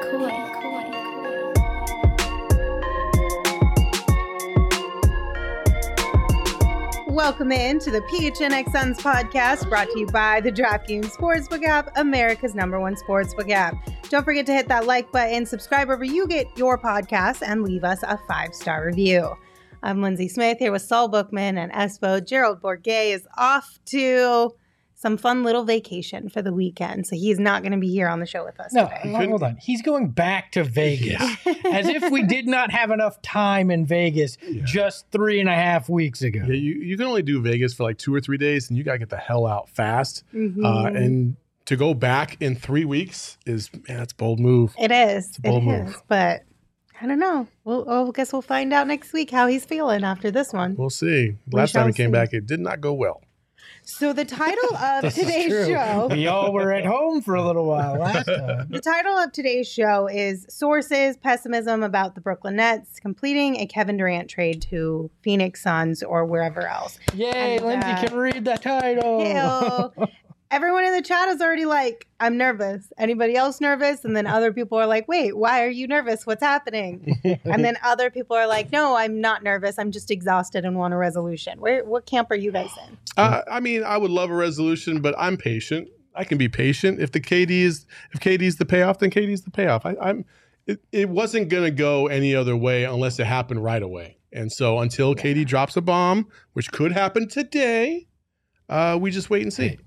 Welcome in to the PHNX Suns podcast, brought to you by the DraftKings Sportsbook app, America's #1 sportsbook app. Don't forget to hit that like button, subscribe wherever you get your podcasts, and leave us a 5-star review. I'm Lindsay Smith here with Saul Bookman and Espo. Gerald Bourguet is off to some fun little vacation for the weekend, so he's not going to be here on the show with us today. Hold on. He's going back to Vegas, as if we did not have enough time in Vegas just 3.5 weeks ago. Yeah, you can only do Vegas for like 2 or 3 days, and you got to get the hell out fast. And to go back in 3 weeks that's a bold move. It is. It's a bold move. But I don't know. I guess we'll find out next week how he's feeling after this one. We'll see. Last time he came back, it did not go well. So the title of today's show... We all were at home for a little while last time. The title of today's show is Sources, Pessimism About the Brooklyn Nets Completing a Kevin Durant Trade to Phoenix Suns or wherever else. Yay, Lindsay can read the title. Everyone in the chat is already like, I'm nervous. Anybody else nervous? And then other people are like, wait, why are you nervous? What's happening? And then other people are like, no, I'm not nervous. I'm just exhausted and want a resolution. What camp are you guys in? I would love a resolution, but I'm patient. I can be patient. If KD's the payoff, then KD's the payoff. It wasn't going to go any other way unless it happened right away. And so until KD drops a bomb, which could happen today, we just wait and see.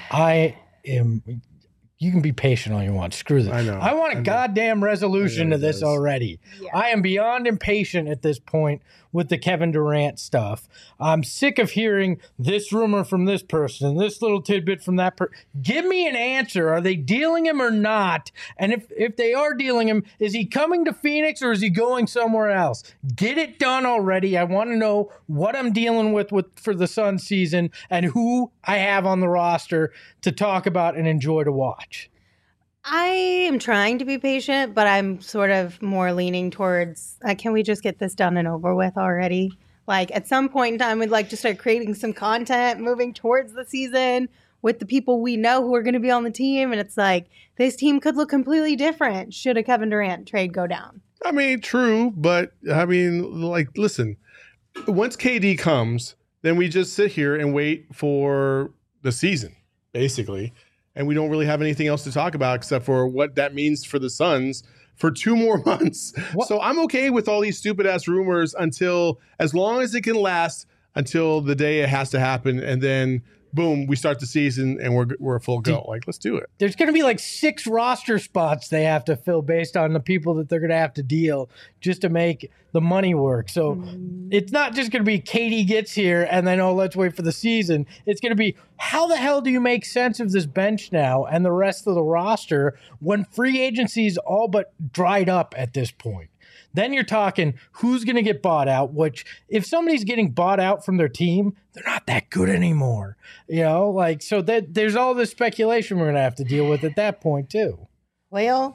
You can be patient all you want. Screw this. I know. I want a goddamn resolution to this already. Yeah. I am beyond impatient at this point with the Kevin Durant stuff. I'm sick of hearing this rumor from this person, this little tidbit from that person. Give me an answer. Are they dealing him or not? And if they are dealing him, is he coming to Phoenix or is he going somewhere else? Get it done already. I want to know what I'm dealing with for the Suns season and who I have on the roster to talk about and enjoy to watch. I am trying to be patient, but I'm sort of more leaning towards, can we just get this done and over with already? Like, at some point in time, we'd like to start creating some content moving towards the season with the people we know who are going to be on the team. And it's like, this team could look completely different should a Kevin Durant trade go down. I mean, true, but listen, once KD comes, then we just sit here and wait for the season, basically. And we don't really have anything else to talk about except for what that means for the Suns for 2 more months. What? So I'm okay with all these stupid-ass rumors as long as it can last until the day it has to happen. And then, boom, we start the season and we're full go. Let's do it. There's going to be 6 roster spots they have to fill based on the people that they're going to have to deal just to make the money work. So it's not just going to be KD gets here and then, let's wait for the season. It's going to be, how the hell do you make sense of this bench now and the rest of the roster when free agency is all but dried up at this point? Then you're talking who's going to get bought out, which if somebody's getting bought out from their team, they're not that good anymore. So that there's all this speculation we're going to have to deal with at that point too. Well,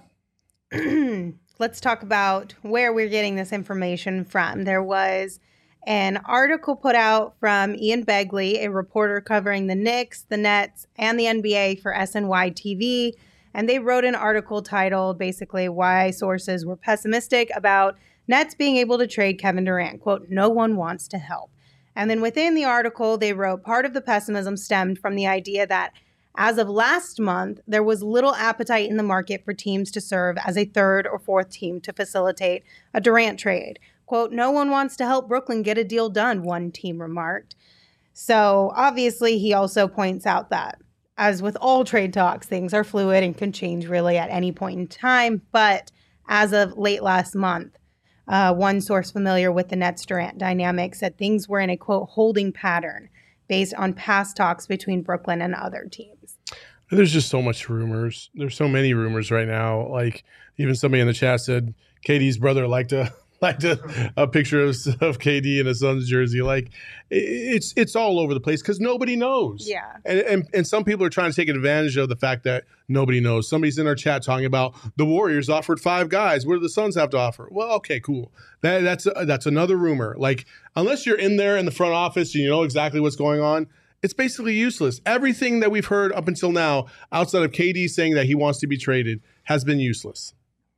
let's talk about where we're getting this information from. There was an article put out from Ian Begley, a reporter covering the Knicks, the Nets, and the NBA for SNY TV. And they wrote an article titled basically why sources were pessimistic about Nets being able to trade Kevin Durant. Quote, no one wants to help. And then within the article, they wrote part of the pessimism stemmed from the idea that as of last month, there was little appetite in the market for teams to serve as a third or fourth team to facilitate a Durant trade. Quote, no one wants to help Brooklyn get a deal done, one team remarked. So obviously, he also points out that as with all trade talks, things are fluid and can change really at any point in time. But as of late last month, one source familiar with the Nets-Durant dynamic said things were in a, quote, holding pattern based on past talks between Brooklyn and other teams. There's just so much rumors. There's so many rumors right now. Even somebody in the chat said KD's brother liked a picture of KD in a Suns jersey. It's all over the place because nobody knows. Yeah. And some people are trying to take advantage of the fact that nobody knows. Somebody's in our chat talking about the Warriors offered 5 guys. What do the Suns have to offer? Well, okay, cool. That's another rumor. Unless you're in there in the front office and you know exactly what's going on, it's basically useless. Everything that we've heard up until now, outside of KD saying that he wants to be traded, has been useless.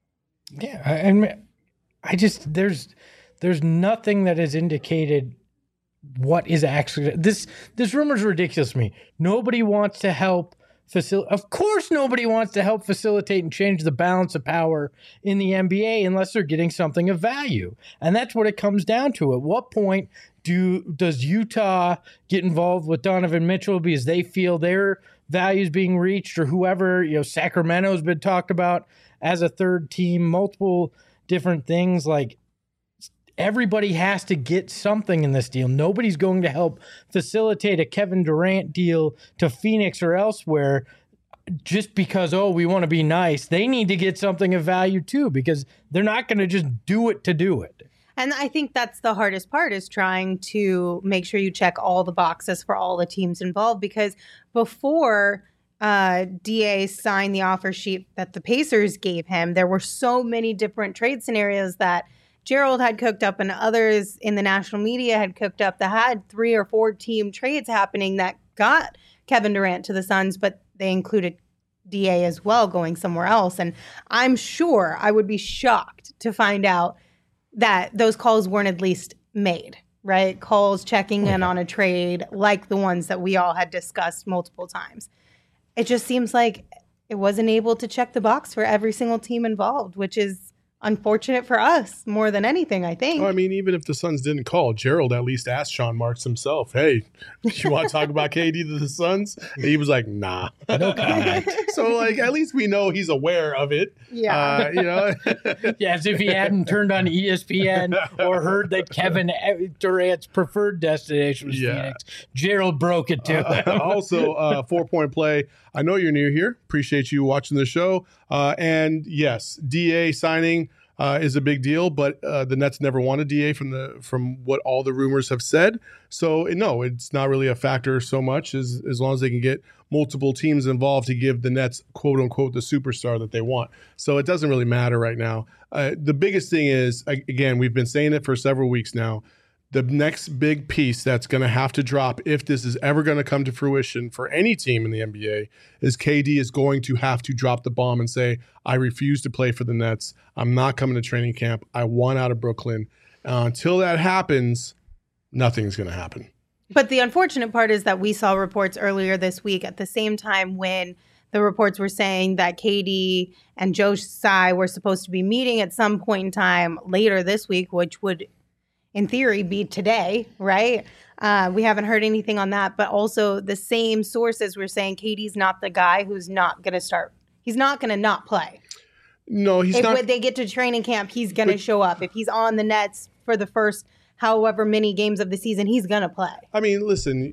Yeah, I just there's nothing that has indicated what is actually this rumor is ridiculous to me. Nobody wants to help facilitate. Of course, nobody wants to help facilitate and change the balance of power in the NBA unless they're getting something of value, and that's what it comes down to. At what point does Utah get involved with Donovan Mitchell because they feel their values being reached, or whoever, Sacramento's been talked about as a third team, multiple different things. Like, everybody has to get something in this deal. Nobody's going to help facilitate a Kevin Durant deal to Phoenix or elsewhere just because, we want to be nice. They need to get something of value too, because they're not going to just do it to do it. And I think that's the hardest part, is trying to make sure you check all the boxes for all the teams involved. Because before DA signed the offer sheet that the Pacers gave him, there were so many different trade scenarios that Gerald had cooked up and others in the national media had cooked up that had 3 or 4 team trades happening that got Kevin Durant to the Suns, but they included DA as well going somewhere else. And I'm sure I would be shocked to find out that those calls weren't at least made, right? Calls checking in on a trade like the ones that we all had discussed multiple times. It just seems like it wasn't able to check the box for every single team involved, which is unfortunate for us more than anything, I think. Well, I mean, even if the Suns didn't call, Gerald at least asked Sean Marks himself, hey, you want to talk about KD to the Suns? And he was like, nah. No comment. So, like, at least we know he's aware of it. Yeah. Yeah, as if he hadn't turned on ESPN or heard that Kevin Durant's preferred destination was Phoenix. Gerald broke it too. Also, 4-point play. I know you're new here. Appreciate you watching the show. And yes, DA signing is a big deal, but the Nets never wanted DA from what all the rumors have said. So no, it's not really a factor so much as long as they can get multiple teams involved to give the Nets, quote unquote, the superstar that they want. So it doesn't really matter right now. The biggest thing is, again, we've been saying it for several weeks now, the next big piece that's going to have to drop, if this is ever going to come to fruition for any team in the NBA, is KD is going to have to drop the bomb and say, I refuse to play for the Nets. I'm not coming to training camp. I want out of Brooklyn. Until that happens, nothing's going to happen. But the unfortunate part is that we saw reports earlier this week at the same time when the reports were saying that KD and Joe Tsai were supposed to be meeting at some point in time later this week, which would in theory be today, right? We haven't heard anything on that, but also the same sources were saying KD's not the guy who's not going to start. He's not going to not play. No, he's not. When they get to training camp, he's going to show up. If he's on the Nets for the first however many games of the season, he's going to play. I mean, listen,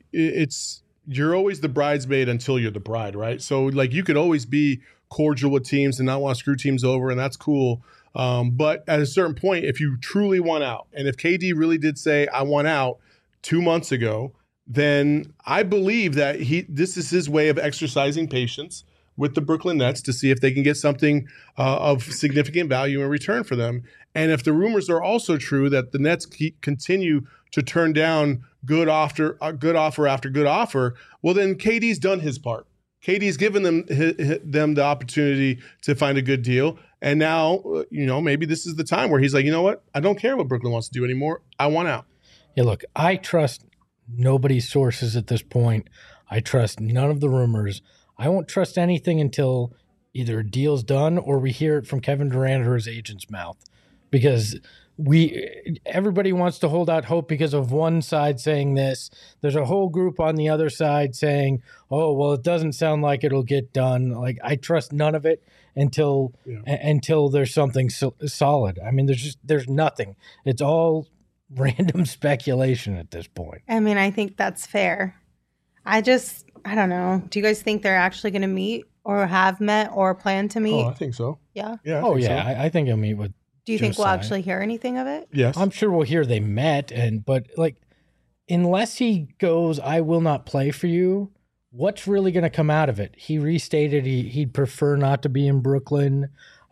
you're always the bridesmaid until you're the bride, right? So, like, you could always be cordial with teams and not want to screw teams over, and that's cool. But at a certain point, if you truly want out, and if KD really did say, I want out 2 months ago, then I believe that this is his way of exercising patience with the Brooklyn Nets to see if they can get something of significant value in return for them. And if the rumors are also true that the Nets continue to turn down good offer after good offer, well, then KD's done his part. KD's given them the opportunity to find a good deal. And now, maybe this is the time where he's like, you know what? I don't care what Brooklyn wants to do anymore. I want out. Yeah, look, I trust nobody's sources at this point. I trust none of the rumors. I won't trust anything until either a deal's done or we hear it from Kevin Durant or his agent's mouth. Because everybody wants to hold out hope because of one side saying this. There's a whole group on the other side saying, oh, well, it doesn't sound like it'll get done. Like, I trust none of it until there's something solid. I mean, there's nothing. It's all random speculation at this point. I mean, I think that's fair. I don't know. Do you guys think they're actually going to meet or have met or plan to meet? Oh, I think so. Yeah? Yeah. I think he'll meet with Do you think we'll actually hear anything of it? Yes. I'm sure we'll hear they met, but like, unless he goes, I will not play for you, what's really going to come out of it? He restated he'd prefer not to be in Brooklyn.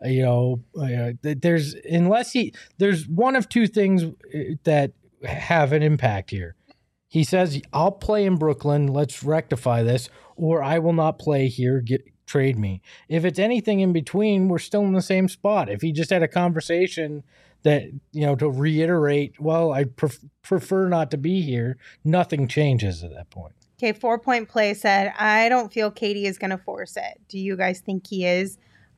There's one of two things that have an impact here. He says, I'll play in Brooklyn. Let's rectify this. Or I will not play here. trade me. If it's anything in between, we're still in the same spot. If he just had a conversation that, to reiterate, well, I prefer not to be here, nothing changes at that point. Okay, 4 Point Play said, I don't feel Katie is going to force it. Do you guys think he is?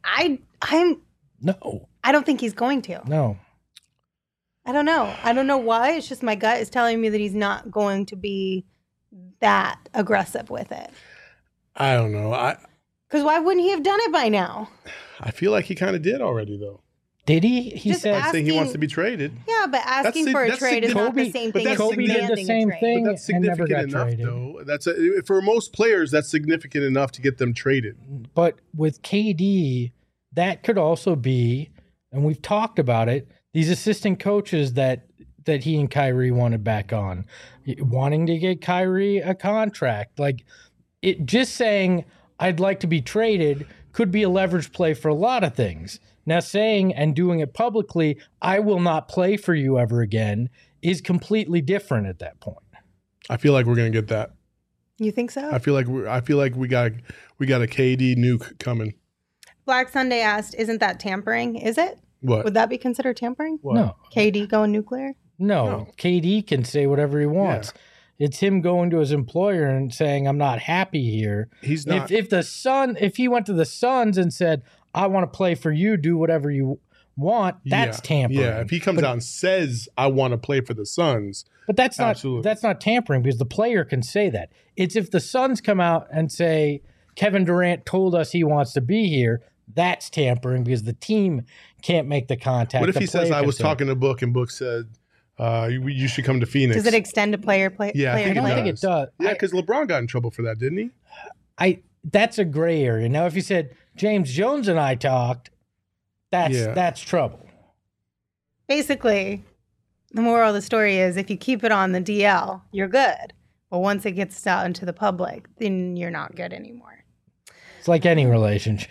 No. I don't think he's going to. No. I don't know. I don't know why. It's just my gut is telling me that he's not going to be that aggressive with it. I don't know. Because why wouldn't he have done it by now? I feel like he kind of did already, though. Did he? He Just said Saying he wants to be traded. Yeah, but asking for a trade is not the same thing as Kobe did the demanding same a trade. thing. But that's and never significant got enough, traded. though. That's for most players, that's significant enough to get them traded. But with KD, that could also be, and we've talked about it, these assistant coaches that he and Kyrie wanted back on, wanting to get Kyrie a contract. Like, it just saying, I'd like to be traded could be a leverage play for a lot of things. Now, saying and doing it publicly, I will not play for you ever again, is completely different at that point. I feel like we're gonna get that. You think so? I feel like we got a KD nuke coming. Black Sunday asked, isn't that tampering? Is it? What? Would that be considered tampering? What? No. KD going nuclear? No. KD can say whatever he wants. Yeah. It's him going to his employer and saying, I'm not happy here. He's not. If he went to the Suns and said, I want to play for you, do whatever you want, that's tampering. Yeah, if he comes out and says, I want to play for the Suns. But that's not tampering, because the player can say that. It's if the Suns come out and say, Kevin Durant told us he wants to be here, that's tampering, because the team can't make the contact. What if he says, I was talking to Book and Book said, you should come to Phoenix? Does it extend to player? Yeah, I don't think it does. Yeah, because LeBron got in trouble for that, didn't he? That's a gray area. Now, if you said James Jones and I talked, that's trouble. Basically, the moral of the story is if you keep it on the DL, you're good. But once it gets out into the public, then you're not good anymore. It's like any relationship.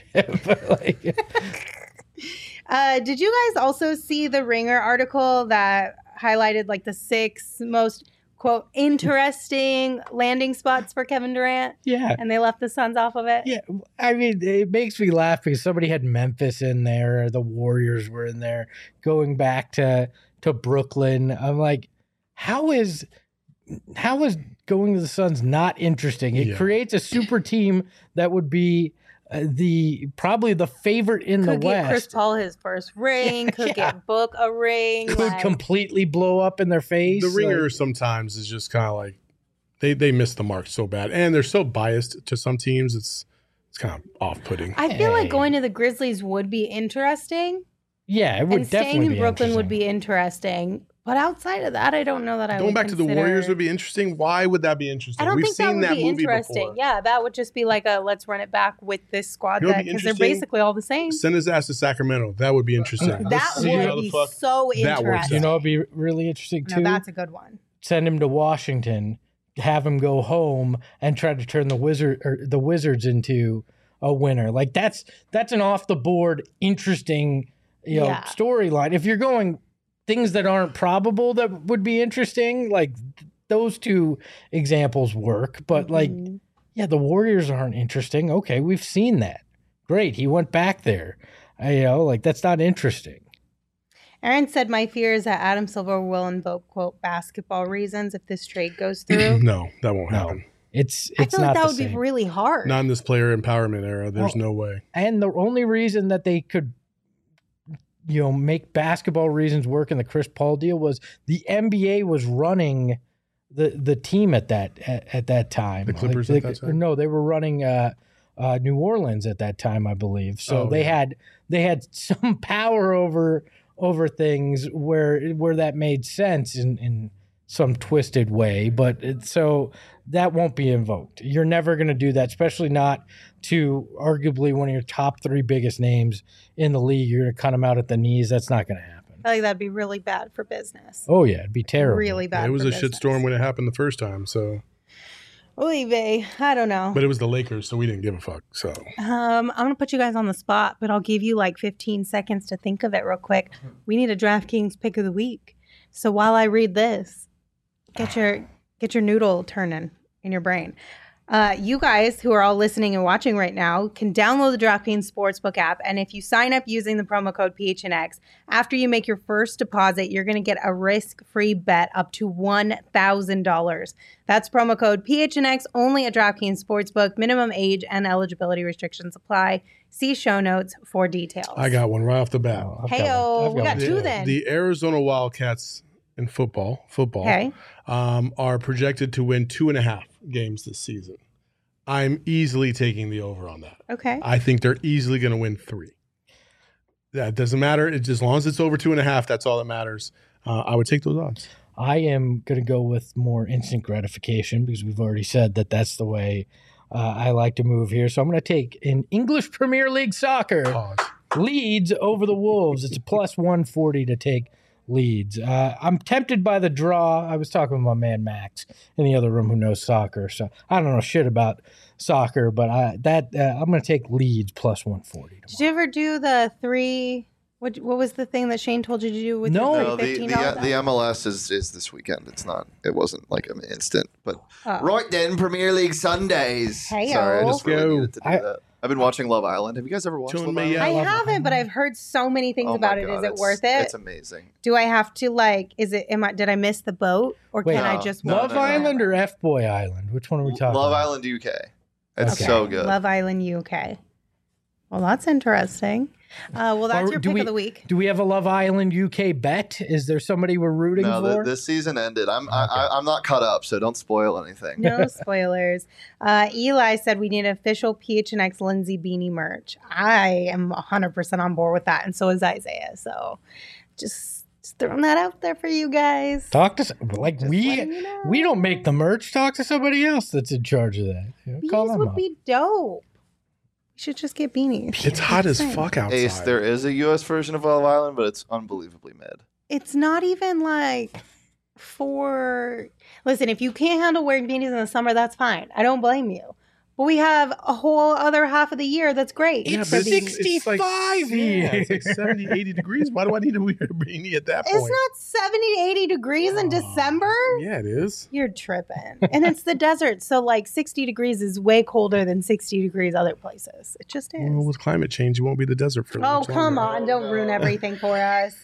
Did you guys also see the Ringer article that highlighted like the 6 most, quote, interesting landing spots for Kevin Durant? Yeah. And they left the Suns off of it? Yeah. I mean, it makes me laugh because somebody had Memphis in there. The Warriors were in there. Going back to Brooklyn. I'm like, how is going to the Suns not interesting? It creates a super team that would be probably the favorite in the West. Could get Chris Paul his first ring. Could get Book a ring. Could completely blow up in their face. The Ringer sometimes is just kind of like they miss the mark so bad, and they're so biased to some teams. It's kind of off-putting. I feel like going to the Grizzlies would be interesting. Yeah, it would and definitely staying in Brooklyn would be interesting. But outside of that, I don't know that I would Going back to the Warriors would be interesting. Why would that be interesting? I don't We've think seen that would be movie interesting. before. Yeah, that would just be like let's run it back with this squad You know what'd be because they're interesting? basically all the same. Send his ass to Sacramento. That would be interesting. That Let's see how would the be fuck so that works interesting. You know, it'd be really interesting too. No, that's a good one. Send him to Washington, have him go home, and try to turn the Wizards into a winner. Like that's an off the board interesting storyline. If you're going things that aren't probable that would be interesting, like those two examples work. But the Warriors aren't interesting. Okay, we've seen that. Great, he went back there. That's not interesting. Aaron said, my fear is that Adam Silver will invoke, quote, basketball reasons if this trade goes through. No, that won't happen. It's I feel not like that would same. be really hard. Not in this player empowerment era. There's no way. And the only reason that they could make basketball reasons work in the Chris Paul deal was the NBA was running the team at that time. The Clippers at that time? No, they were running New Orleans at that time, I believe. So they had some power over things where that made sense in some twisted way, but so that won't be invoked. You're never going to do that, especially not to arguably one of your top 3 biggest names in the league. You're going to cut them out at the knees. That's not going to happen. I feel like that'd be really bad for business. Oh yeah, it'd be terrible. Really bad. It was for a business. shitstorm when it happened the first time. So, Oy vey, I don't know. but it was the Lakers, so we didn't give a fuck. So, I'm gonna put you guys on the spot, but I'll give you like 15 seconds to think of it real quick. We need a DraftKings pick of the week. So while I read this, get your noodle turning in your brain. You guys who are all listening and watching right now can download the DraftKings Sportsbook app. And if you sign up using the promo code PHNX, after you make your first deposit, you're going to get a risk-free bet up to $1,000. That's promo code PHNX only at DraftKings Sportsbook. Minimum age and eligibility restrictions apply. See show notes for details. I got one right off the bat. Hey-o, we got two then. The Arizona Wildcats in football Okay. are projected to win 2.5 games this season. I'm easily taking the over on that. Okay. I think they're easily going to win 3. That doesn't matter. It's as long as it's over 2.5, that's all that matters. I would take those odds. I am going to go with more instant gratification because we've already said that that's the way I like to move here. So I'm going to take in English Premier League soccer, Pause. Leeds over the Wolves. It's a plus 140 to take Leeds. I'm tempted by the draw. I was talking with my man Max in the other room who knows soccer, so I don't know shit about soccer, but I'm going to take Leeds plus 140 tomorrow. Did you ever do the 3? What was the thing that Shane told you to do with No. your No, the $15? MLS is this weekend. It's not. It wasn't like an instant. But Oh. right then, Premier League Sundays. Hey-o. Sorry, I just really Go. needed to do that. I've been watching Love Island. Have you guys ever watched Tune Love me Island? up. I love haven't, but I've heard so many things Oh about my it. God, Is it it's- worth it? It's amazing. Do I have to did I miss the boat or Wait. can I No. just No, Love no, no. Island or F Boy Island? Which one are we talking Love about? Island UK. It's Okay. so good. Love Island UK. Well, that's interesting. Well, that's Or your do pick we- of the week. Do we have a Love Island UK bet? Is there somebody we're rooting No, for? this season ended. I'm not caught up, so don't spoil anything. No spoilers. Eli said we need official PHNX Lindsay beanie merch. I am 100% on board with that, and so is Isaiah. So just throwing that out there for you guys. Talk to like Just letting you know. we don't make the merch. Talk to somebody else that's in charge of that. Call Beanies them would up. be dope. We should just get beanies. It's hot as Same. fuck outside. Ace, there is a US version of Love Island, but it's unbelievably mid. It's not even like listen, if you can't handle wearing beanies in the summer, that's fine. I don't blame you. But we have a whole other half of the year that's great. It's for but beanies. 65 yeah, here. it's like 70, 80 degrees. Why do I need to wear a beanie at that It's point? not 70 to 80 degrees in December. Yeah, it is. You're tripping. And it's the desert. So, like, 60 degrees is way colder than 60 degrees other places. It just is. Well, with climate change, it won't be the desert for Oh, much come longer. on. Don't ruin no. everything for us.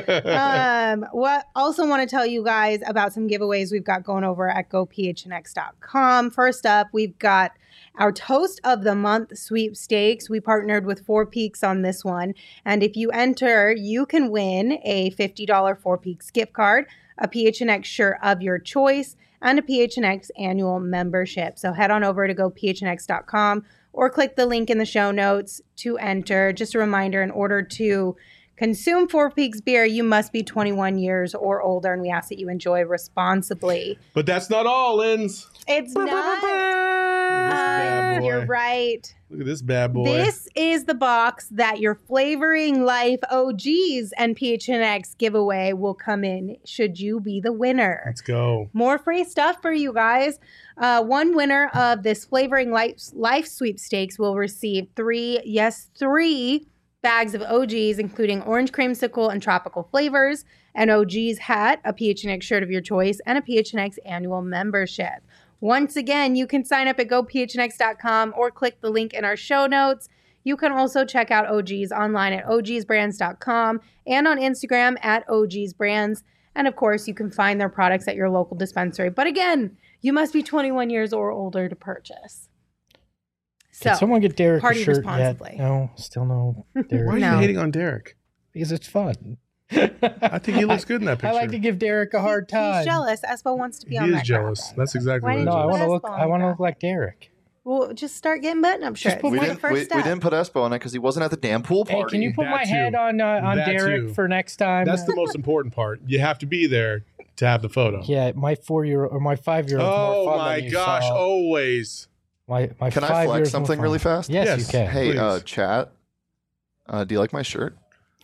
What also want to tell you guys about some giveaways we've got going over at gophnx.com. First up, we've got our Toast of the Month sweepstakes. We partnered with Four Peaks on this one. And if you enter, you can win a $50 Four Peaks gift card, a PHNX shirt of your choice, and a PHNX annual membership. So head on over to gophnx.com or click the link in the show notes to enter. Just a reminder, in order to consume Four Peaks beer, you must be 21 years or older, and we ask that you enjoy responsibly. But that's not all, Linz. It's not. bad boy. You're right. Look at this bad boy. This is the box that your Flavoring Life OGs and PHNX giveaway will come in should you be the winner. Let's go. More free stuff for you guys. One winner of this Flavoring Life sweepstakes will receive three bags of OGs, including orange creamsicle and tropical flavors, an OG's hat, a PHNX shirt of your choice, and a PHNX annual membership. Once again, you can sign up at gophnx.com or click the link in our show notes. You can also check out OGs online at ogsbrands.com and on Instagram at ogsbrands. And of course, you can find their products at your local dispensary. But again, you must be 21 years or older to purchase. So, Did someone get Derek a party shirt responsibly. yet? No, still no Derek. Why are you No. hating on Derek? Because it's fun. I think he looks good in that picture. I like to give Derek a hard time. He's jealous. Espo wants to be He on is that jealous. graphic. That's exactly Why what it didn't No, is. I want to Put look. Espo on I want to the look like Derek. Well, just start getting button-up shirts. put We my- That's the first we step. didn't put Espo on it because he wasn't at the damn pool Hey, party. can you put That my too. head on That Derek too. for next time? That's the most important part. You have to be there to have the photo. Yeah, my 4-year-old or my 5-year-old. Oh more fun my than you gosh! saw. Always. My Can I 5 flex years something more really fun. fast? Yes, Yes. you can. Hey, Please. chat. Do you like my shirt?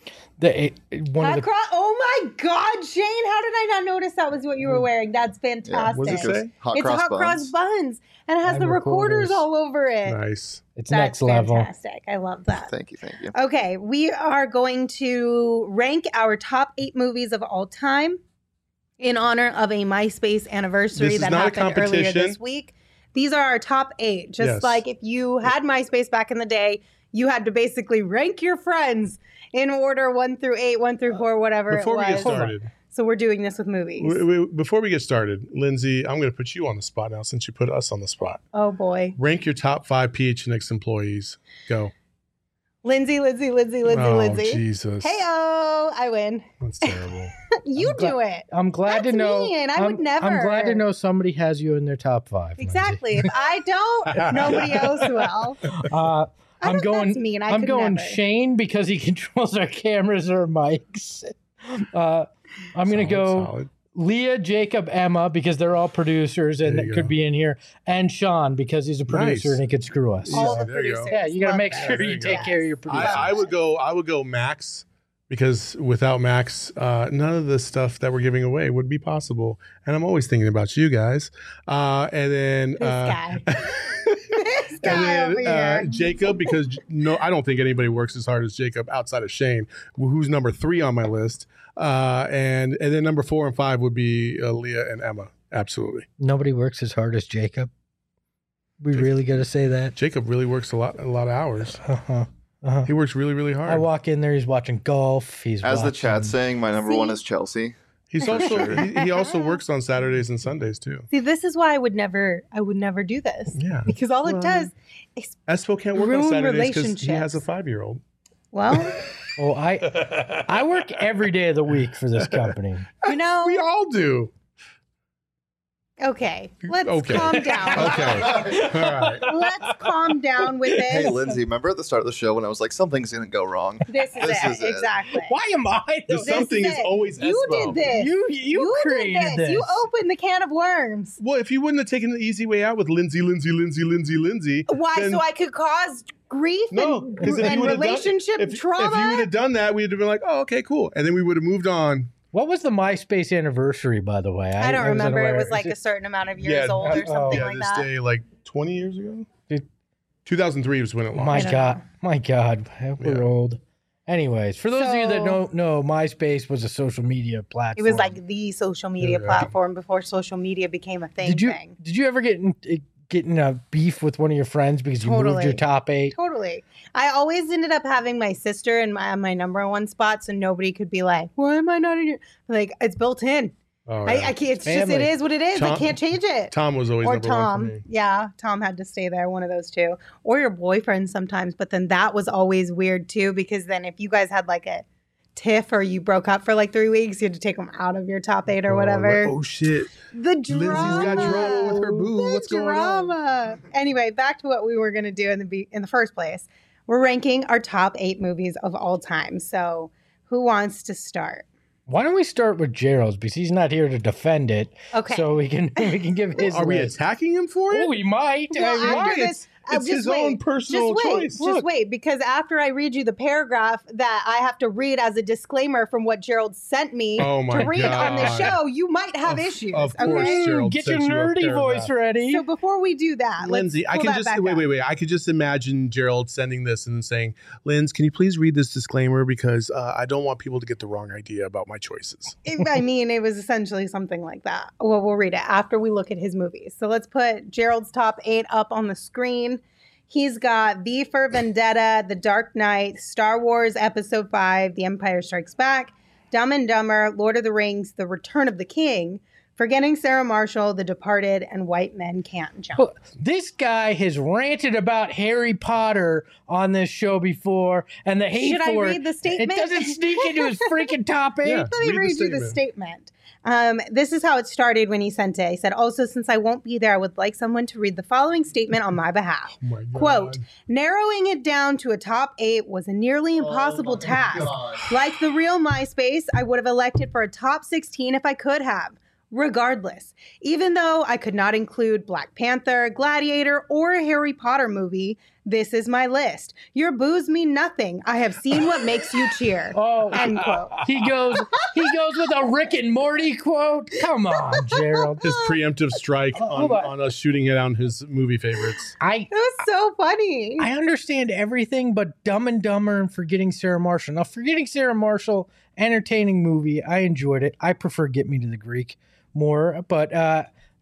One of the Oh my God, Shane! How did I not notice that was what you were wearing? That's fantastic. What does it say? Hot It's cross hot buns. cross buns, and it has And the recorders recorders. all over it. Nice. it's That's next level. fantastic. I love that. Thank you. Okay, we are going to rank our top 8 movies of all time in honor of a MySpace anniversary This is that not a happened earlier competition. this week. These are our top 8. Just Yes. like if you had MySpace back in the day, you had to basically rank your friends in order 1 through 8, 1 through 4, whatever Before it we was. get started, So we're doing this with movies. before we get started, Lindsay, I'm going to put you on the spot now since you put us on the spot. Oh boy. Rank your top 5 PHNX employees. Go. Lindsay. Oh, Jesus. Hey-oh, I win. That's terrible. You do it. I'm glad That's to know. mean. I would never. I'm glad to know somebody has you in their top 5. Lindsay. Exactly. If I don't, nobody else will. I'm going. That's mean. I'm could going never. Shane because he controls our cameras or mics. I'm going to go Solid. Leah, Jacob, Emma because they're all producers and There you that could go. be in here, and Sean because he's a producer Nice. and he could screw us. All the There you go. producers. Yeah, you got to Love make that. sure There you you take go. care of your producers. I would go Max because without Max, none of the stuff that we're giving away would be possible. And I'm always thinking about you guys. And then This guy. This and guy then over here. Jacob, because no, I don't think anybody works as hard as Jacob outside of Shane, who's number 3 on my list. And then number 4 and 5 would be Leah and Emma. Absolutely. Nobody works as hard as Jacob. We really got to say that. Jacob really works a lot of hours. Uh-huh. Uh-huh. He works really, really hard. I walk in there, he's watching golf. He's As the watching- chat's saying, my number See? 1 is Chelsea. He's also he also works on Saturdays and Sundays too. See, this is why I would never do this. Yeah. Because all it Well, does is, Espo can't work Ruin on Saturdays because he has a relationships. 5-year-old. well, Oh, I work every day of the week for this company. you know, We all do. okay, let's Okay. calm down. Okay. All right. Let's calm down with this. Hey, Lindsay, remember at the start of the show when I was like, something's going to go wrong? This is This it. is it. Exactly. Why am I? The This something is it. always You Espo. did this. You created did this. You opened the can of worms. Well, if you wouldn't have taken the easy way out with Lindsay, Why? then- So I could cause grief no, and, because if you and would have relationship done, if trauma. you would have done that, we'd have been like, oh, okay, cool, and then we would have moved on. What was the MySpace anniversary, by the way? I don't was remember. It unaware. was like a certain amount of years old or oh, something Yeah, like this that. day like 20 years ago. Dude. 2003 was when it My launched. don't God, my God, we're Yeah. old. Anyways, for those of you that So- don't know, MySpace was a social media It platform. was like the social media Yeah. platform before social media became a thing. Did you ever get in a beef with one of your friends because you moved Totally. your top 8? Totally. I always ended up having my sister in my number 1 spot, so nobody could be like, "Why am I not in your?" Like it's built in. Oh, I yeah. can't. It's just Family. it is what it is. I Tom- can't change it. Tom was always Or number 1 Tom. for me. Yeah, Tom had to stay there. One of those two, or your boyfriend sometimes. But then that was always weird too, because then if you guys had like a tiff or you broke up for like 3 weeks, you had to take them out of your top 8 or whatever. Oh shit! The drama. Lindsay's got drama with her boo. The What's going on? drama. Anyway, back to what we were going to do in the first place. We're ranking our top 8 movies of all time. So, who wants to start? Why don't we start with Gerald's because he's not here to defend it, Okay. so we can give his. Are we list. attacking him for it? Oh, we might. Well, I mean, after Why? this, It's just his wait. own personal just wait, choice. Just wait, because after I read you the paragraph that I have to read as a disclaimer from what Gerald sent me Oh my to read on the God. show, you might have issues. Of course, okay? Gerald get your sent you a nerdy paragraph. voice ready. So before we do that, Lindsay, I let's can pull that just back up. wait. I could just imagine Gerald sending this and saying, "Linz, can you please read this disclaimer because I don't want people to get the wrong idea about my choices." I mean, it was essentially something like that. Well, we'll read it after we look at his movies. So let's put Gerald's top 8 up on the screen. He's got V for Vendetta, The Dark Knight, Star Wars Episode 5, The Empire Strikes Back, Dumb and Dumber, Lord of the Rings, The Return of the King, Forgetting Sarah Marshall, The Departed, and White Men Can't Jump. Well, this guy has ranted about Harry Potter on this show before, and the hate Should I for read it. the statement? It doesn't sneak into his freaking top 8. Yeah. Let me Read the read you the statement. This is how it started when he sent it. He said, also, since I won't be there, I would like someone to read the following statement on my behalf. Oh my God. Quote, narrowing it down to a top 8 was a nearly impossible task. Like the real MySpace, I would have elected for a top 16 if I could have. Regardless, even though I could not include Black Panther, Gladiator, or a Harry Potter movie, this is my list. Your boos mean nothing. I have seen what makes you cheer. Oh, End quote. he goes with a Rick and Morty quote. Come on, Gerald. His preemptive strike Hold on. on us shooting it on his movie favorites. It was so funny. I understand everything but Dumb and Dumber and Forgetting Sarah Marshall. Now, Forgetting Sarah Marshall, entertaining movie. I enjoyed it. I prefer Get Me to the Greek more, but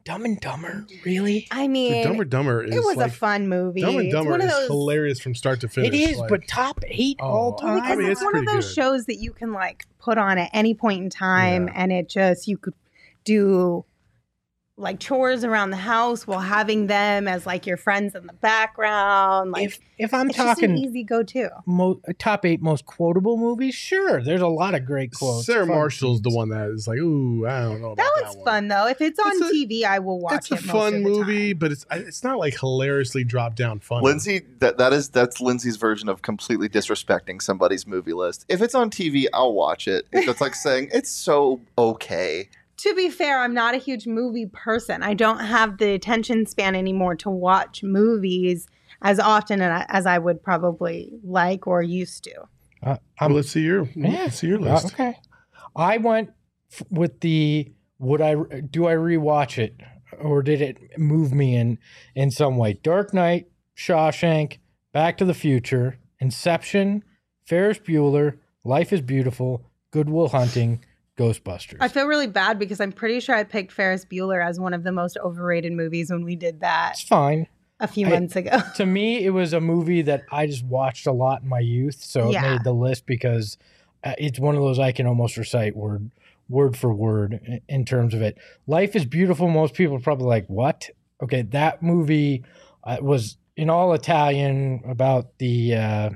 Dumb and Dumber, really? I Dude, mean, Dumb and Dumber is it was like, a fun movie. Dumb and It's Dumber one of is those, hilarious from start to finish. It is, like, but top 8 all Oh, Well, time. because I mean, it's it's one of pretty those good. shows that you can like put on at any point in time, Yeah. and it just you could do like chores around the house while having them as like your friends in the background. Like if I'm it's just an talking easy go-to. top 8 most quotable movies, sure, there's a lot of great quotes. Sarah Fun Marshall's the scenes. one that is like, ooh, I don't know about That that one's one. fun though. If it's on It's a- TV, I will watch It's a it. most fun of the movie, time. but it's not like hilariously dropped down funny. Lindsay, that's Lindsay's version of completely disrespecting somebody's movie list. If it's on TV, I'll watch it. It's like saying it's so okay. To be fair, I'm not a huge movie person. I don't have the attention span anymore to watch movies as often as I would probably like or used to. Well, let's see your list. Okay. I went with the do I rewatch it or did it move me in some way? Dark Knight, Shawshank, Back to the Future, Inception, Ferris Bueller, Life is Beautiful, Good Will Hunting, Ghostbusters. I feel really bad because I'm pretty sure I picked Ferris Bueller as one of the most overrated movies when we did that It's fine. a few months ago. To me, it was a movie that I just watched a lot in my youth, so it Yeah. made the list because it's one of those I can almost recite word for word in terms of it. Life is Beautiful. Most people are probably like, what? Okay, that movie was in all Italian about the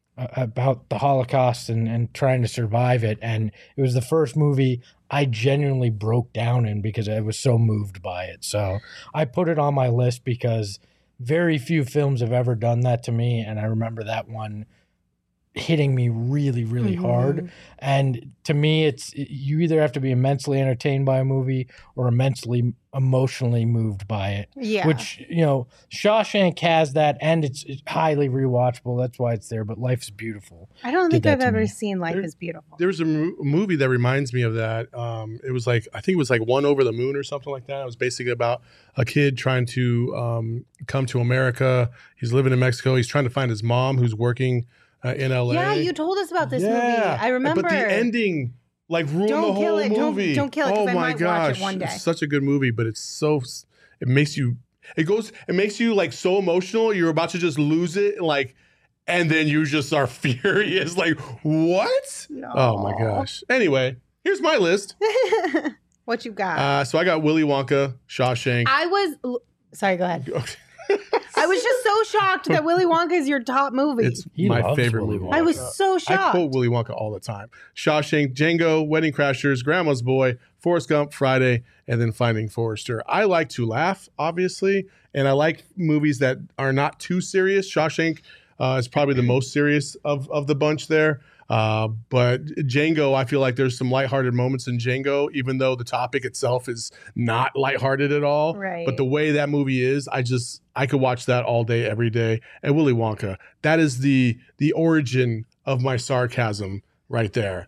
Holocaust and trying to survive it. And it was the first movie I genuinely broke down in because I was so moved by it. So I put it on my list because very few films have ever done that to me. And I remember that one hitting me really, really hard. And to me, you either have to be immensely entertained by a movie or immensely emotionally moved by it. Yeah. Which, Shawshank has that, and it's highly rewatchable. That's why it's there. But Life is Beautiful. I don't did think that I've to ever me. seen Life is Beautiful. There was a movie that reminds me of that. It was like, I think it was like One Over the Moon or something like that. It was basically about a kid trying to come to America. He's living in Mexico. He's trying to find his mom who's working in LA. Yeah, you told us about this movie. I remember. But the ending like ruined Don't the kill whole it. Don't- movie. don't kill it, 'cause Oh I my might watch it gosh. one day. It's such a good movie, but it makes you like so emotional. You're about to just lose it, like, and then you just are furious. Like, what? Oh my gosh. Anyway, here's my list. What you got? So I got Willy Wonka, Shawshank. Sorry, go ahead. I was just so shocked that Willy Wonka is your top movie. It's He my loves favorite Willy movie. Wonka. I was so I shocked. quote Willy Wonka all the time. Shawshank, Django, Wedding Crashers, Grandma's Boy, Forrest Gump, Friday, and then Finding Forrester. I like to laugh, obviously, and I like movies that are not too serious. Shawshank is probably the most serious of the bunch there. But Django, I feel like there's some lighthearted moments in Django, even though the topic itself is not lighthearted at all. Right. But the way that movie is, I could watch that all day, every day. And Willy Wonka, that is the origin of my sarcasm right there.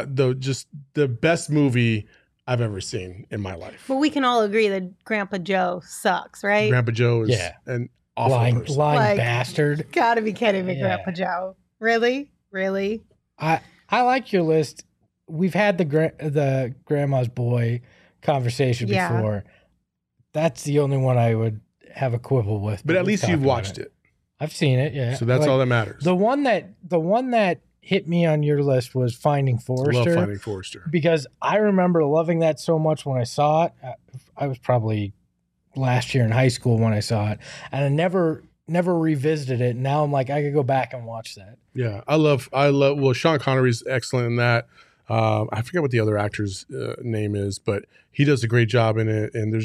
The best movie I've ever seen in my life. But we can all agree that Grandpa Joe sucks, right? Grandpa Joe is Yeah. an awful lying person. Like- bastard. Gotta be kidding me, Yeah. Grandpa Joe. Really? Really? I like your list. We've had the Grandma's Boy conversation Yeah. before. That's the only one I would have a quibble with. But at we've least talked you've about watched it. I've seen it. Yeah. So that's Like, all that matters. The one that hit me on your list was Finding Forrester. Love Finding Forrester. Because I remember loving that so much when I saw it. I was probably last year in high school when I saw it, and I never revisited it. Now I'm like, I could go back and watch that. Yeah, I love. Well, Sean Connery's excellent in that. I forget what the other actor's name is, but he does a great job in it. And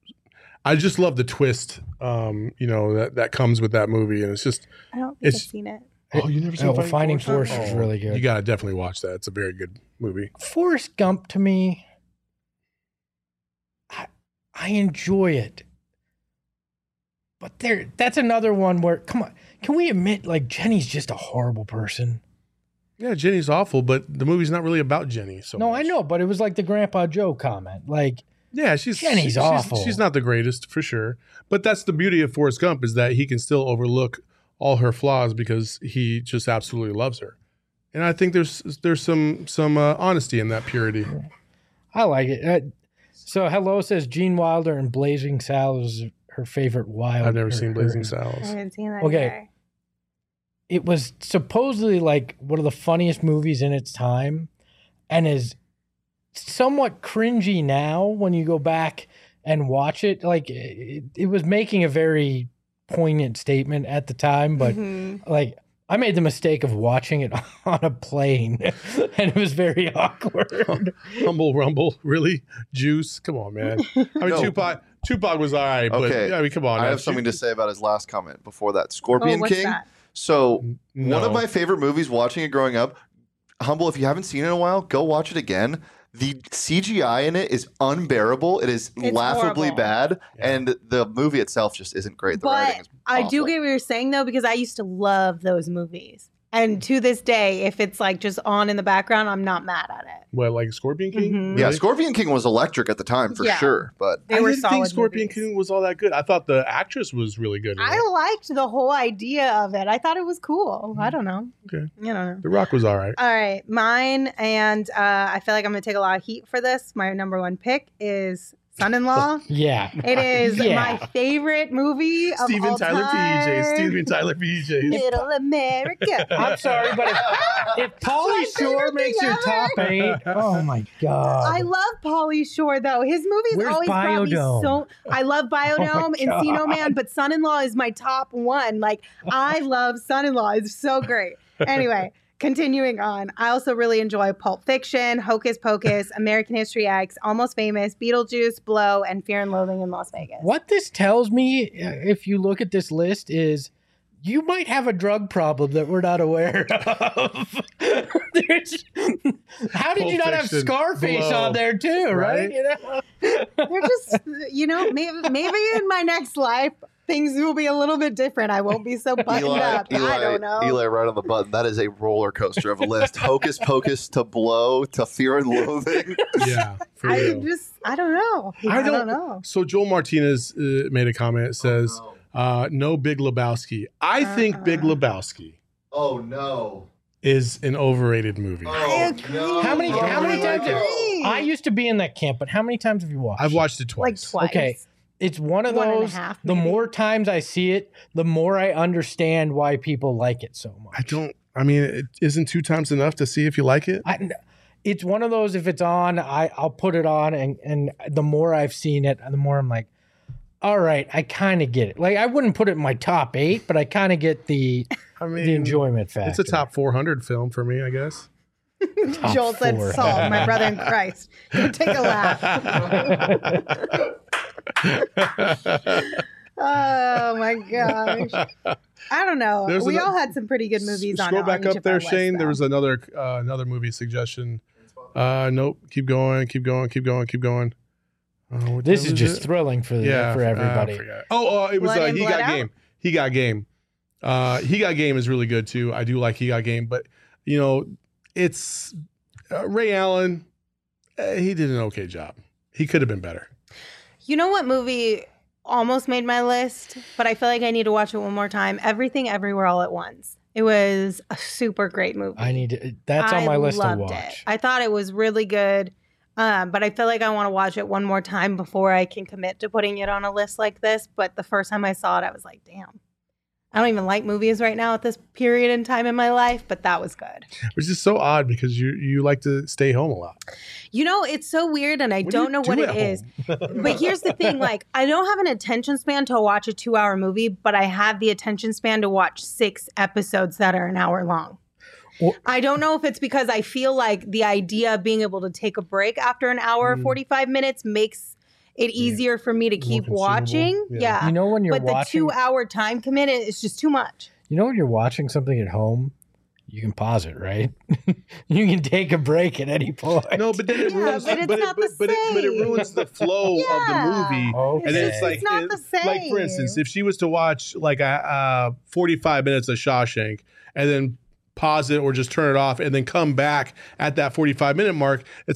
I just love the twist, that comes with that movie. And it's just, I don't think I've It's- seen it. oh, you never seen Finding Forrester is really good. You gotta definitely watch that. It's a very good movie. Forrest Gump to me, I enjoy it. But that's another one where, come on, can we admit, like, Jenny's just a horrible person? Yeah, Jenny's awful, but the movie's not really about Jenny. So No, much. I know, but it was like the Grandpa Joe comment. Like, Yeah, Jenny's awful. She's not the greatest for sure, but that's the beauty of Forrest Gump is that he can still overlook all her flaws because he just absolutely loves her, and I think there's some honesty in that purity. I like it. So Hello says Gene Wilder and Blazing Saddles is her favorite wild. I've never seen Blazing I Saddles. haven't seen that Okay. either. It was supposedly like one of the funniest movies in its time and is somewhat cringy now when you go back and watch it. Like it was making a very poignant statement at the time, but Mhm. like I made the mistake of watching it on a plane and it was very awkward. Humble Rumble, really? Juice? Come on, man. I mean, No. Tupac was all right, but Okay. I mean, come on. I have something to say about his last comment before that. Scorpion Oh, what's King. that? So No. one of my favorite movies watching it growing up, Humble, if you haven't seen it in a while, go watch it again. The CGI in it is unbearable. It is It's laughably horrible. bad. Yeah. And the movie itself just isn't great. The writing But is I do awful. get what you're saying though, because I used to love those movies. And to this day, if it's like just on in the background, I'm not mad at it. What, like Scorpion King? Mhm. Yeah, Really? Scorpion King was electric at the time for Yeah. sure. But They I were didn't solid think Scorpion movies. King was all that good. I thought the actress was really good. in I it. liked the whole idea of it. I thought it was cool. I don't know. Okay. I don't know. The Rock was all right. All right, mine, and I feel like I'm going to take a lot of heat for this. My number one pick is Son-in-Law. Yeah. It is Yeah. my favorite movie of Steven all Tyler time. PJ. Steven Tyler PJ. Middle America. I'm sorry, but if Pauly My Shore favorite makes thing your top ever. 8, oh my God. I love Pauly Shore though. His movies Where's always brought me Biodome? so. I love Biodome, God. Encino Man, but Son-in-Law is my top one. Like I love Son-in-Law. It's so great. Anyway, continuing on. I also really enjoy Pulp Fiction, Hocus Pocus, American History X, Almost Famous, Beetlejuice, Blow, and Fear and Loathing in Las Vegas. What this tells me, if you look at this list, is you might have a drug problem that we're not aware of. How did you Pulp not have Fiction, Scarface Blow, on there too, right? right? You know? They're just, maybe in my next life things will be a little bit different. I won't be so buttoned up. I don't know. Eli, right on the button. That is a roller coaster of a list. Hocus Pocus to Blow to Fear and Loathing. Yeah, for I real. don't know. I don't know. So Joel Martinez made a comment. It says, no Big Lebowski. I think Big Lebowski Oh no. is an overrated movie. I agree. How many I times have agree. I used to be in that camp, but how many times have you watched? I've watched it Like twice. twice. Okay. It's one of One and a those. half, The maybe. more times I see it, the more I understand why people like it so much. I mean, it isn't 2 times enough to see if you like it? It's one of those. If it's on, I'll put it on, and the more I've seen it, the more I'm like, all right, I kind of get it. Like I wouldn't put it in my top 8, but I kind of get the enjoyment factor. It's a top 400 film for me, I guess. Top Joel said, 4. Saul, my brother in Christ. Go take a laugh. Oh my gosh. I don't know. There's We ano- all had some pretty good movies on Scroll on back each up of there, our lists, Shane. There though. was another movie suggestion. Nope. Keep going. What This time is just thrilling for everybody. I forgot. it was Blood In, He Blood Got Out? Game. He Got Game. He Got Game is really good too. I do like He Got Game, but it's Ray Allen. He did an okay job. He could have been better. You know what movie almost made my list, but I feel like I need to watch it one more time? Everything Everywhere All at Once. It was a super great movie. That's on my list to loved watch. it. I thought it was really good, but I feel like I want to watch it one more time before I can commit to putting it on a list like this. But the first time I saw it, I was like, damn. I don't even like movies right now at this period in time in my life, but that was good. Which is so odd because you like to stay home a lot. It's so weird, and I What do don't you know do what at it is. home? But here's the thing, like, I don't have an attention span to watch a 2-hour movie, but I have the attention span to watch 6 episodes that are an hour long. Well- I don't know if it's because I feel like the idea of being able to take a break after an hour or 45 minutes makes it easier for me to keep consumable. watching. Yeah. Yeah. You know when you're But the watching, 2-hour time commitment is just too much. you know when you're watching something at home, you can pause it, right? You can take a break at any point. No, but then it Yeah, ruins. but it's but not the but it same. ruins the flow Yeah. of the movie. Okay. And then it's It's like, not the like for instance, same. if she was to watch like a 45 minutes of Shawshank and then pause it or just turn it off and then come back at that 45-minute mark, it's like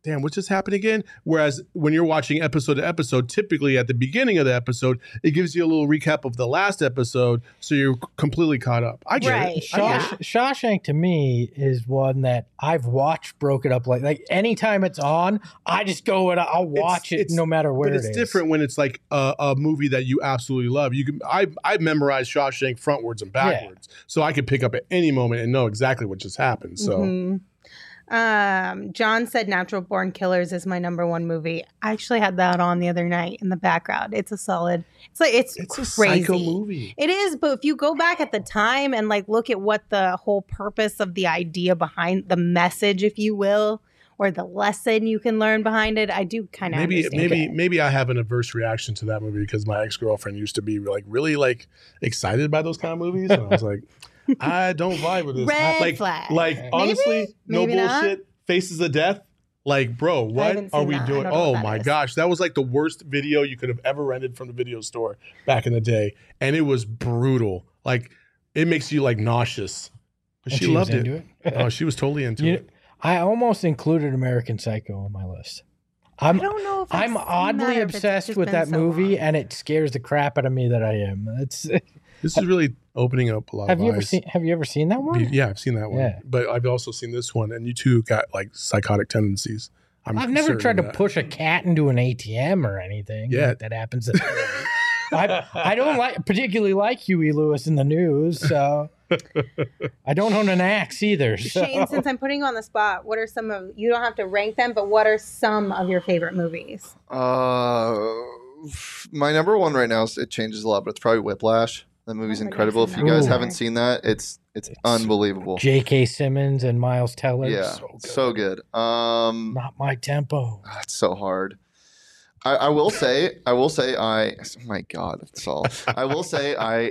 damn, what just happened again? Whereas when you're watching episode to episode, typically at the beginning of the episode, it gives you a little recap of the last episode, so you're completely caught up. I get Right. it. I get it. Shawshank to me is one that I've watched broken up like anytime it's on, I just go and I'll watch it no matter where But it's different when it's like a movie that you absolutely love. You can I memorized Shawshank frontwards and backwards, so I could pick up at any moment and know exactly what just happened. So. Mhm. John said Natural Born Killers is my number one movie. I actually had that on the other night in the background. It's a solid. It's It's a crazy. psycho movie. It is, but if you go back at the time and like look at what the whole purpose of the idea behind the message, if you will, or the lesson you can learn behind it, I do kind of Maybe I have an adverse reaction to that movie because my ex-girlfriend used to be like really like excited by those kind of movies, and I was like, I don't vibe with this. Red flag. Like honestly, Maybe no not. bullshit. Faces of Death. Like, bro, what haven't are seen we that. I doing? don't know Oh what that my is. gosh, that was like the worst video you could have ever rented from the video store back in the day, and it was brutal. Like, it makes you like nauseous. But And she was loved into it. it. Oh, she was totally into You- it. I almost included American Psycho on my list. I don't know if I've I'm seen oddly that or if it's obsessed just with been that so movie, long. and it scares the crap out of me that I am. It's This is really opening up a lot have of you ever eyes. seen? Have you ever seen that one? Yeah, I've seen that one. Yeah. But I've also seen this one, and you two got like psychotic tendencies. I've never certain tried of to that. push a cat into an ATM or anything. Yeah. like that happens. I don't particularly like Huey Lewis in the news, so I don't own an axe either. So. Shane, since I'm putting you on the spot, what are some of you don't have to rank them, but what are some of your favorite movies? My number one right now it changes a lot, but it's probably Whiplash. That movie's I think I've incredible. seen If you that guys one. haven't seen that, it's unbelievable. J.K. Simmons and Miles Teller. Yeah, so good. Not my tempo. It's so hard. I will say, oh my God, Saul. I will say, I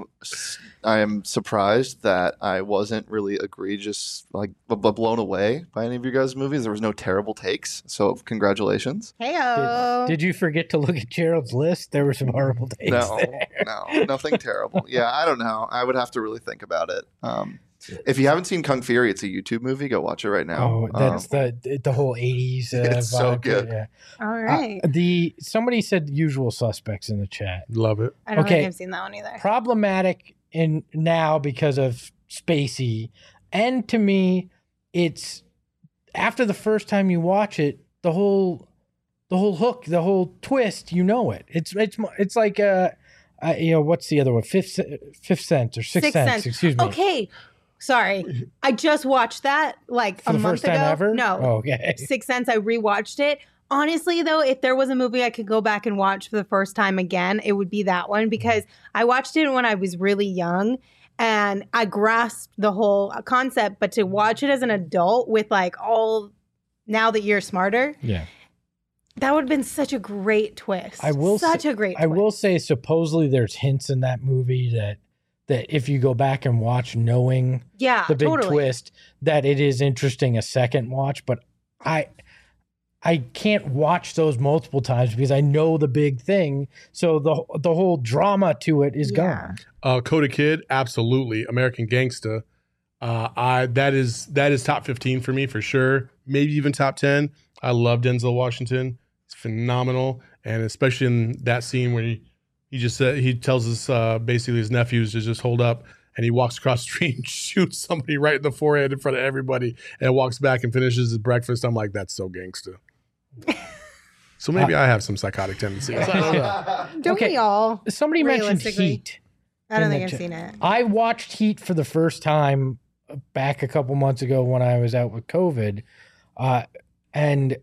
am surprised that I wasn't really egregious, like blown away by any of you guys' movies. There was no terrible takes, so congratulations. Heyo. Did you forget to look at Gerald's list? There were some horrible takes No, there. no, nothing terrible. Yeah, I don't know. I would have to really think about it. If you haven't seen Kung Fury, it's a YouTube movie. Go watch it right now. Oh, that's the whole 80s. It's so vibe. good. Yeah. All right. Somebody said Usual Suspects in the chat. Love it. I don't okay. think I've seen that one either. Problematic in now because of Spacey, and to me, it's after the first time you watch it, the whole hook, the whole twist, you know it. It's like what's the other one? Fifth Sense or Sixth Sense? Excuse me. Okay. Sorry. I just watched that like For a the month first time ago. ever? No. Oh, okay. Sixth Sense, I rewatched it. Honestly, though, if there was a movie I could go back and watch for the first time again, it would be that one because I watched it when I was really young and I grasped the whole concept. But to watch it as an adult with like all now that you're smarter, Yeah. that would have been such a great twist. I will such a great twist. I will say supposedly there's hints in that movie that if you go back and watch knowing Yeah, the big totally. twist, that it is interesting a second watch, but I can't watch those multiple times because I know the big thing. So the whole drama to it is Yeah. gone. Coda Kid, absolutely. American Gangsta. That is top 15 for me for sure. Maybe even top 10. I love Denzel Washington. It's phenomenal, and especially in that scene where he just said he tells us basically his nephews to just hold up, and he walks across the street and shoots somebody right in the forehead in front of everybody, and walks back and finishes his breakfast. I'm like, that's so gangsta. So maybe I have some psychotic tendencies. I don't know. Don't Okay. we all? Somebody mentioned Realistically. Heat. I don't in think the I've chat. seen it. I watched Heat for the first time back a couple months ago when I was out with COVID. And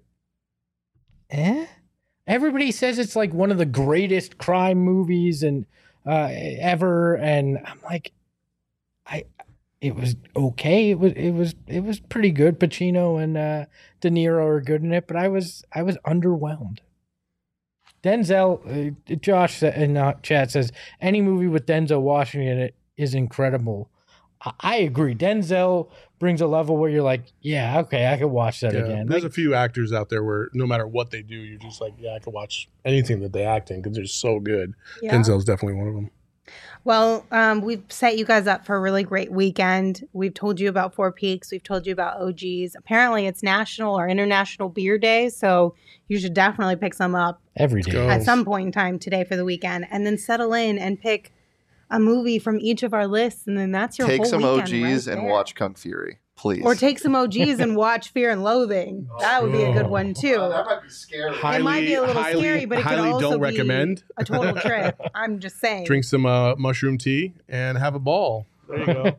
everybody says it's like one of the greatest crime movies and ever. And I'm like, it was okay. It was pretty good. Pacino and De Niro are good in it, but I was underwhelmed. Denzel, Josh in chat says any movie with Denzel Washington in it is incredible. I agree. Denzel brings a level where you're like, yeah, okay, I could watch that Yeah, again. there's Like, a few actors out there where no matter what they do, you're just like, yeah, I could watch anything that they act in because they're so good. Yeah. Denzel's definitely one of them. Well, we've set you guys up for a really great weekend. We've told you about Four Peaks. We've told you about OGs. Apparently, it's National or International Beer Day, so you should definitely pick some up Every day. go. at some point in time today for the weekend, and then settle in and pick a movie from each of our lists, and then that's your Take whole some weekend OGs right and there. watch Kung Fury, please. Or take some OGs and watch Fear and Loathing. That would be a good one too. might be scary. It might be a little scary, but it could highly also don't be recommend. a total trip. I'm just saying. Drink some mushroom tea and have a ball. There you go.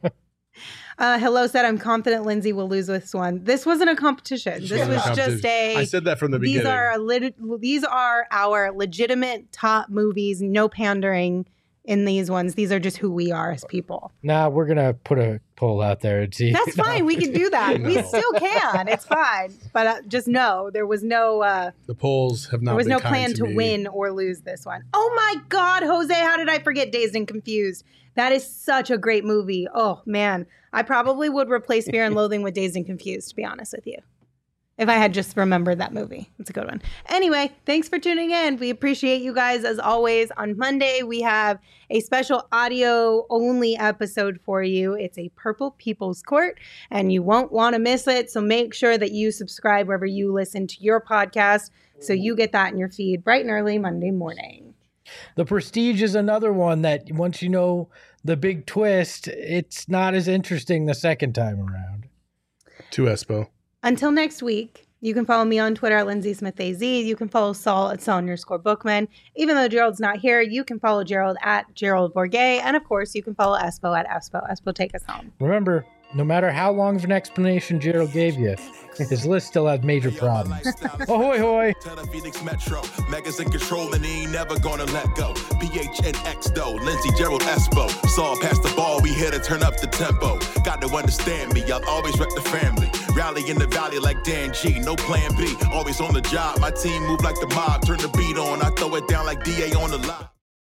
Hello said, I'm confident Lindsay will lose this one. This wasn't a competition. This wasn't a was just competition. I said that from the beginning. These are our legitimate top movies. No pandering in these ones. These are just who we are as people. Nah, we're going to put a poll out there and see. That's fine. We can do that. We still can. It's fine. But just know there was no The polls have not. there was been no kind plan to me. win or lose this one. Oh my God, Jose, how did I forget Dazed and Confused? That is such a great movie. Oh man, I probably would replace Fear and Loathing with Dazed and Confused, to be honest with you. If I had just remembered that movie. It's a good one. Anyway, thanks for tuning in. We appreciate you guys as always. On Monday, we have a special audio only episode for you. It's a Purple People's Court, and you won't want to miss it. So make sure that you subscribe wherever you listen to your podcast so you get that in your feed bright and early Monday morning. The Prestige is another one that once you know the big twist, it's not as interesting the second time around. To Espo. Until next week, you can follow me on Twitter at Lindsay Smith AZ. You can follow Saul at Saul_Bookman. Even though Gerald's not here, you can follow Gerald at Gerald Bourget. And of course, you can follow Espo at Espo. Espo, take us home. Remember, no matter how long of an explanation Gerald gave you, his list still has major problems. Ahoy, hoy! Tell the Phoenix Metro, Megas in control and he ain't never gonna let go. PHNX though, Lindsay, Gerald, Espo. Saw past the ball, we here to turn up the tempo. Got to understand me, I'll always rep the family. Rally in the valley like Dan G, no plan B. Always on the job, my team move like the mob. Turn the beat on, I throw it down like DA on the lot.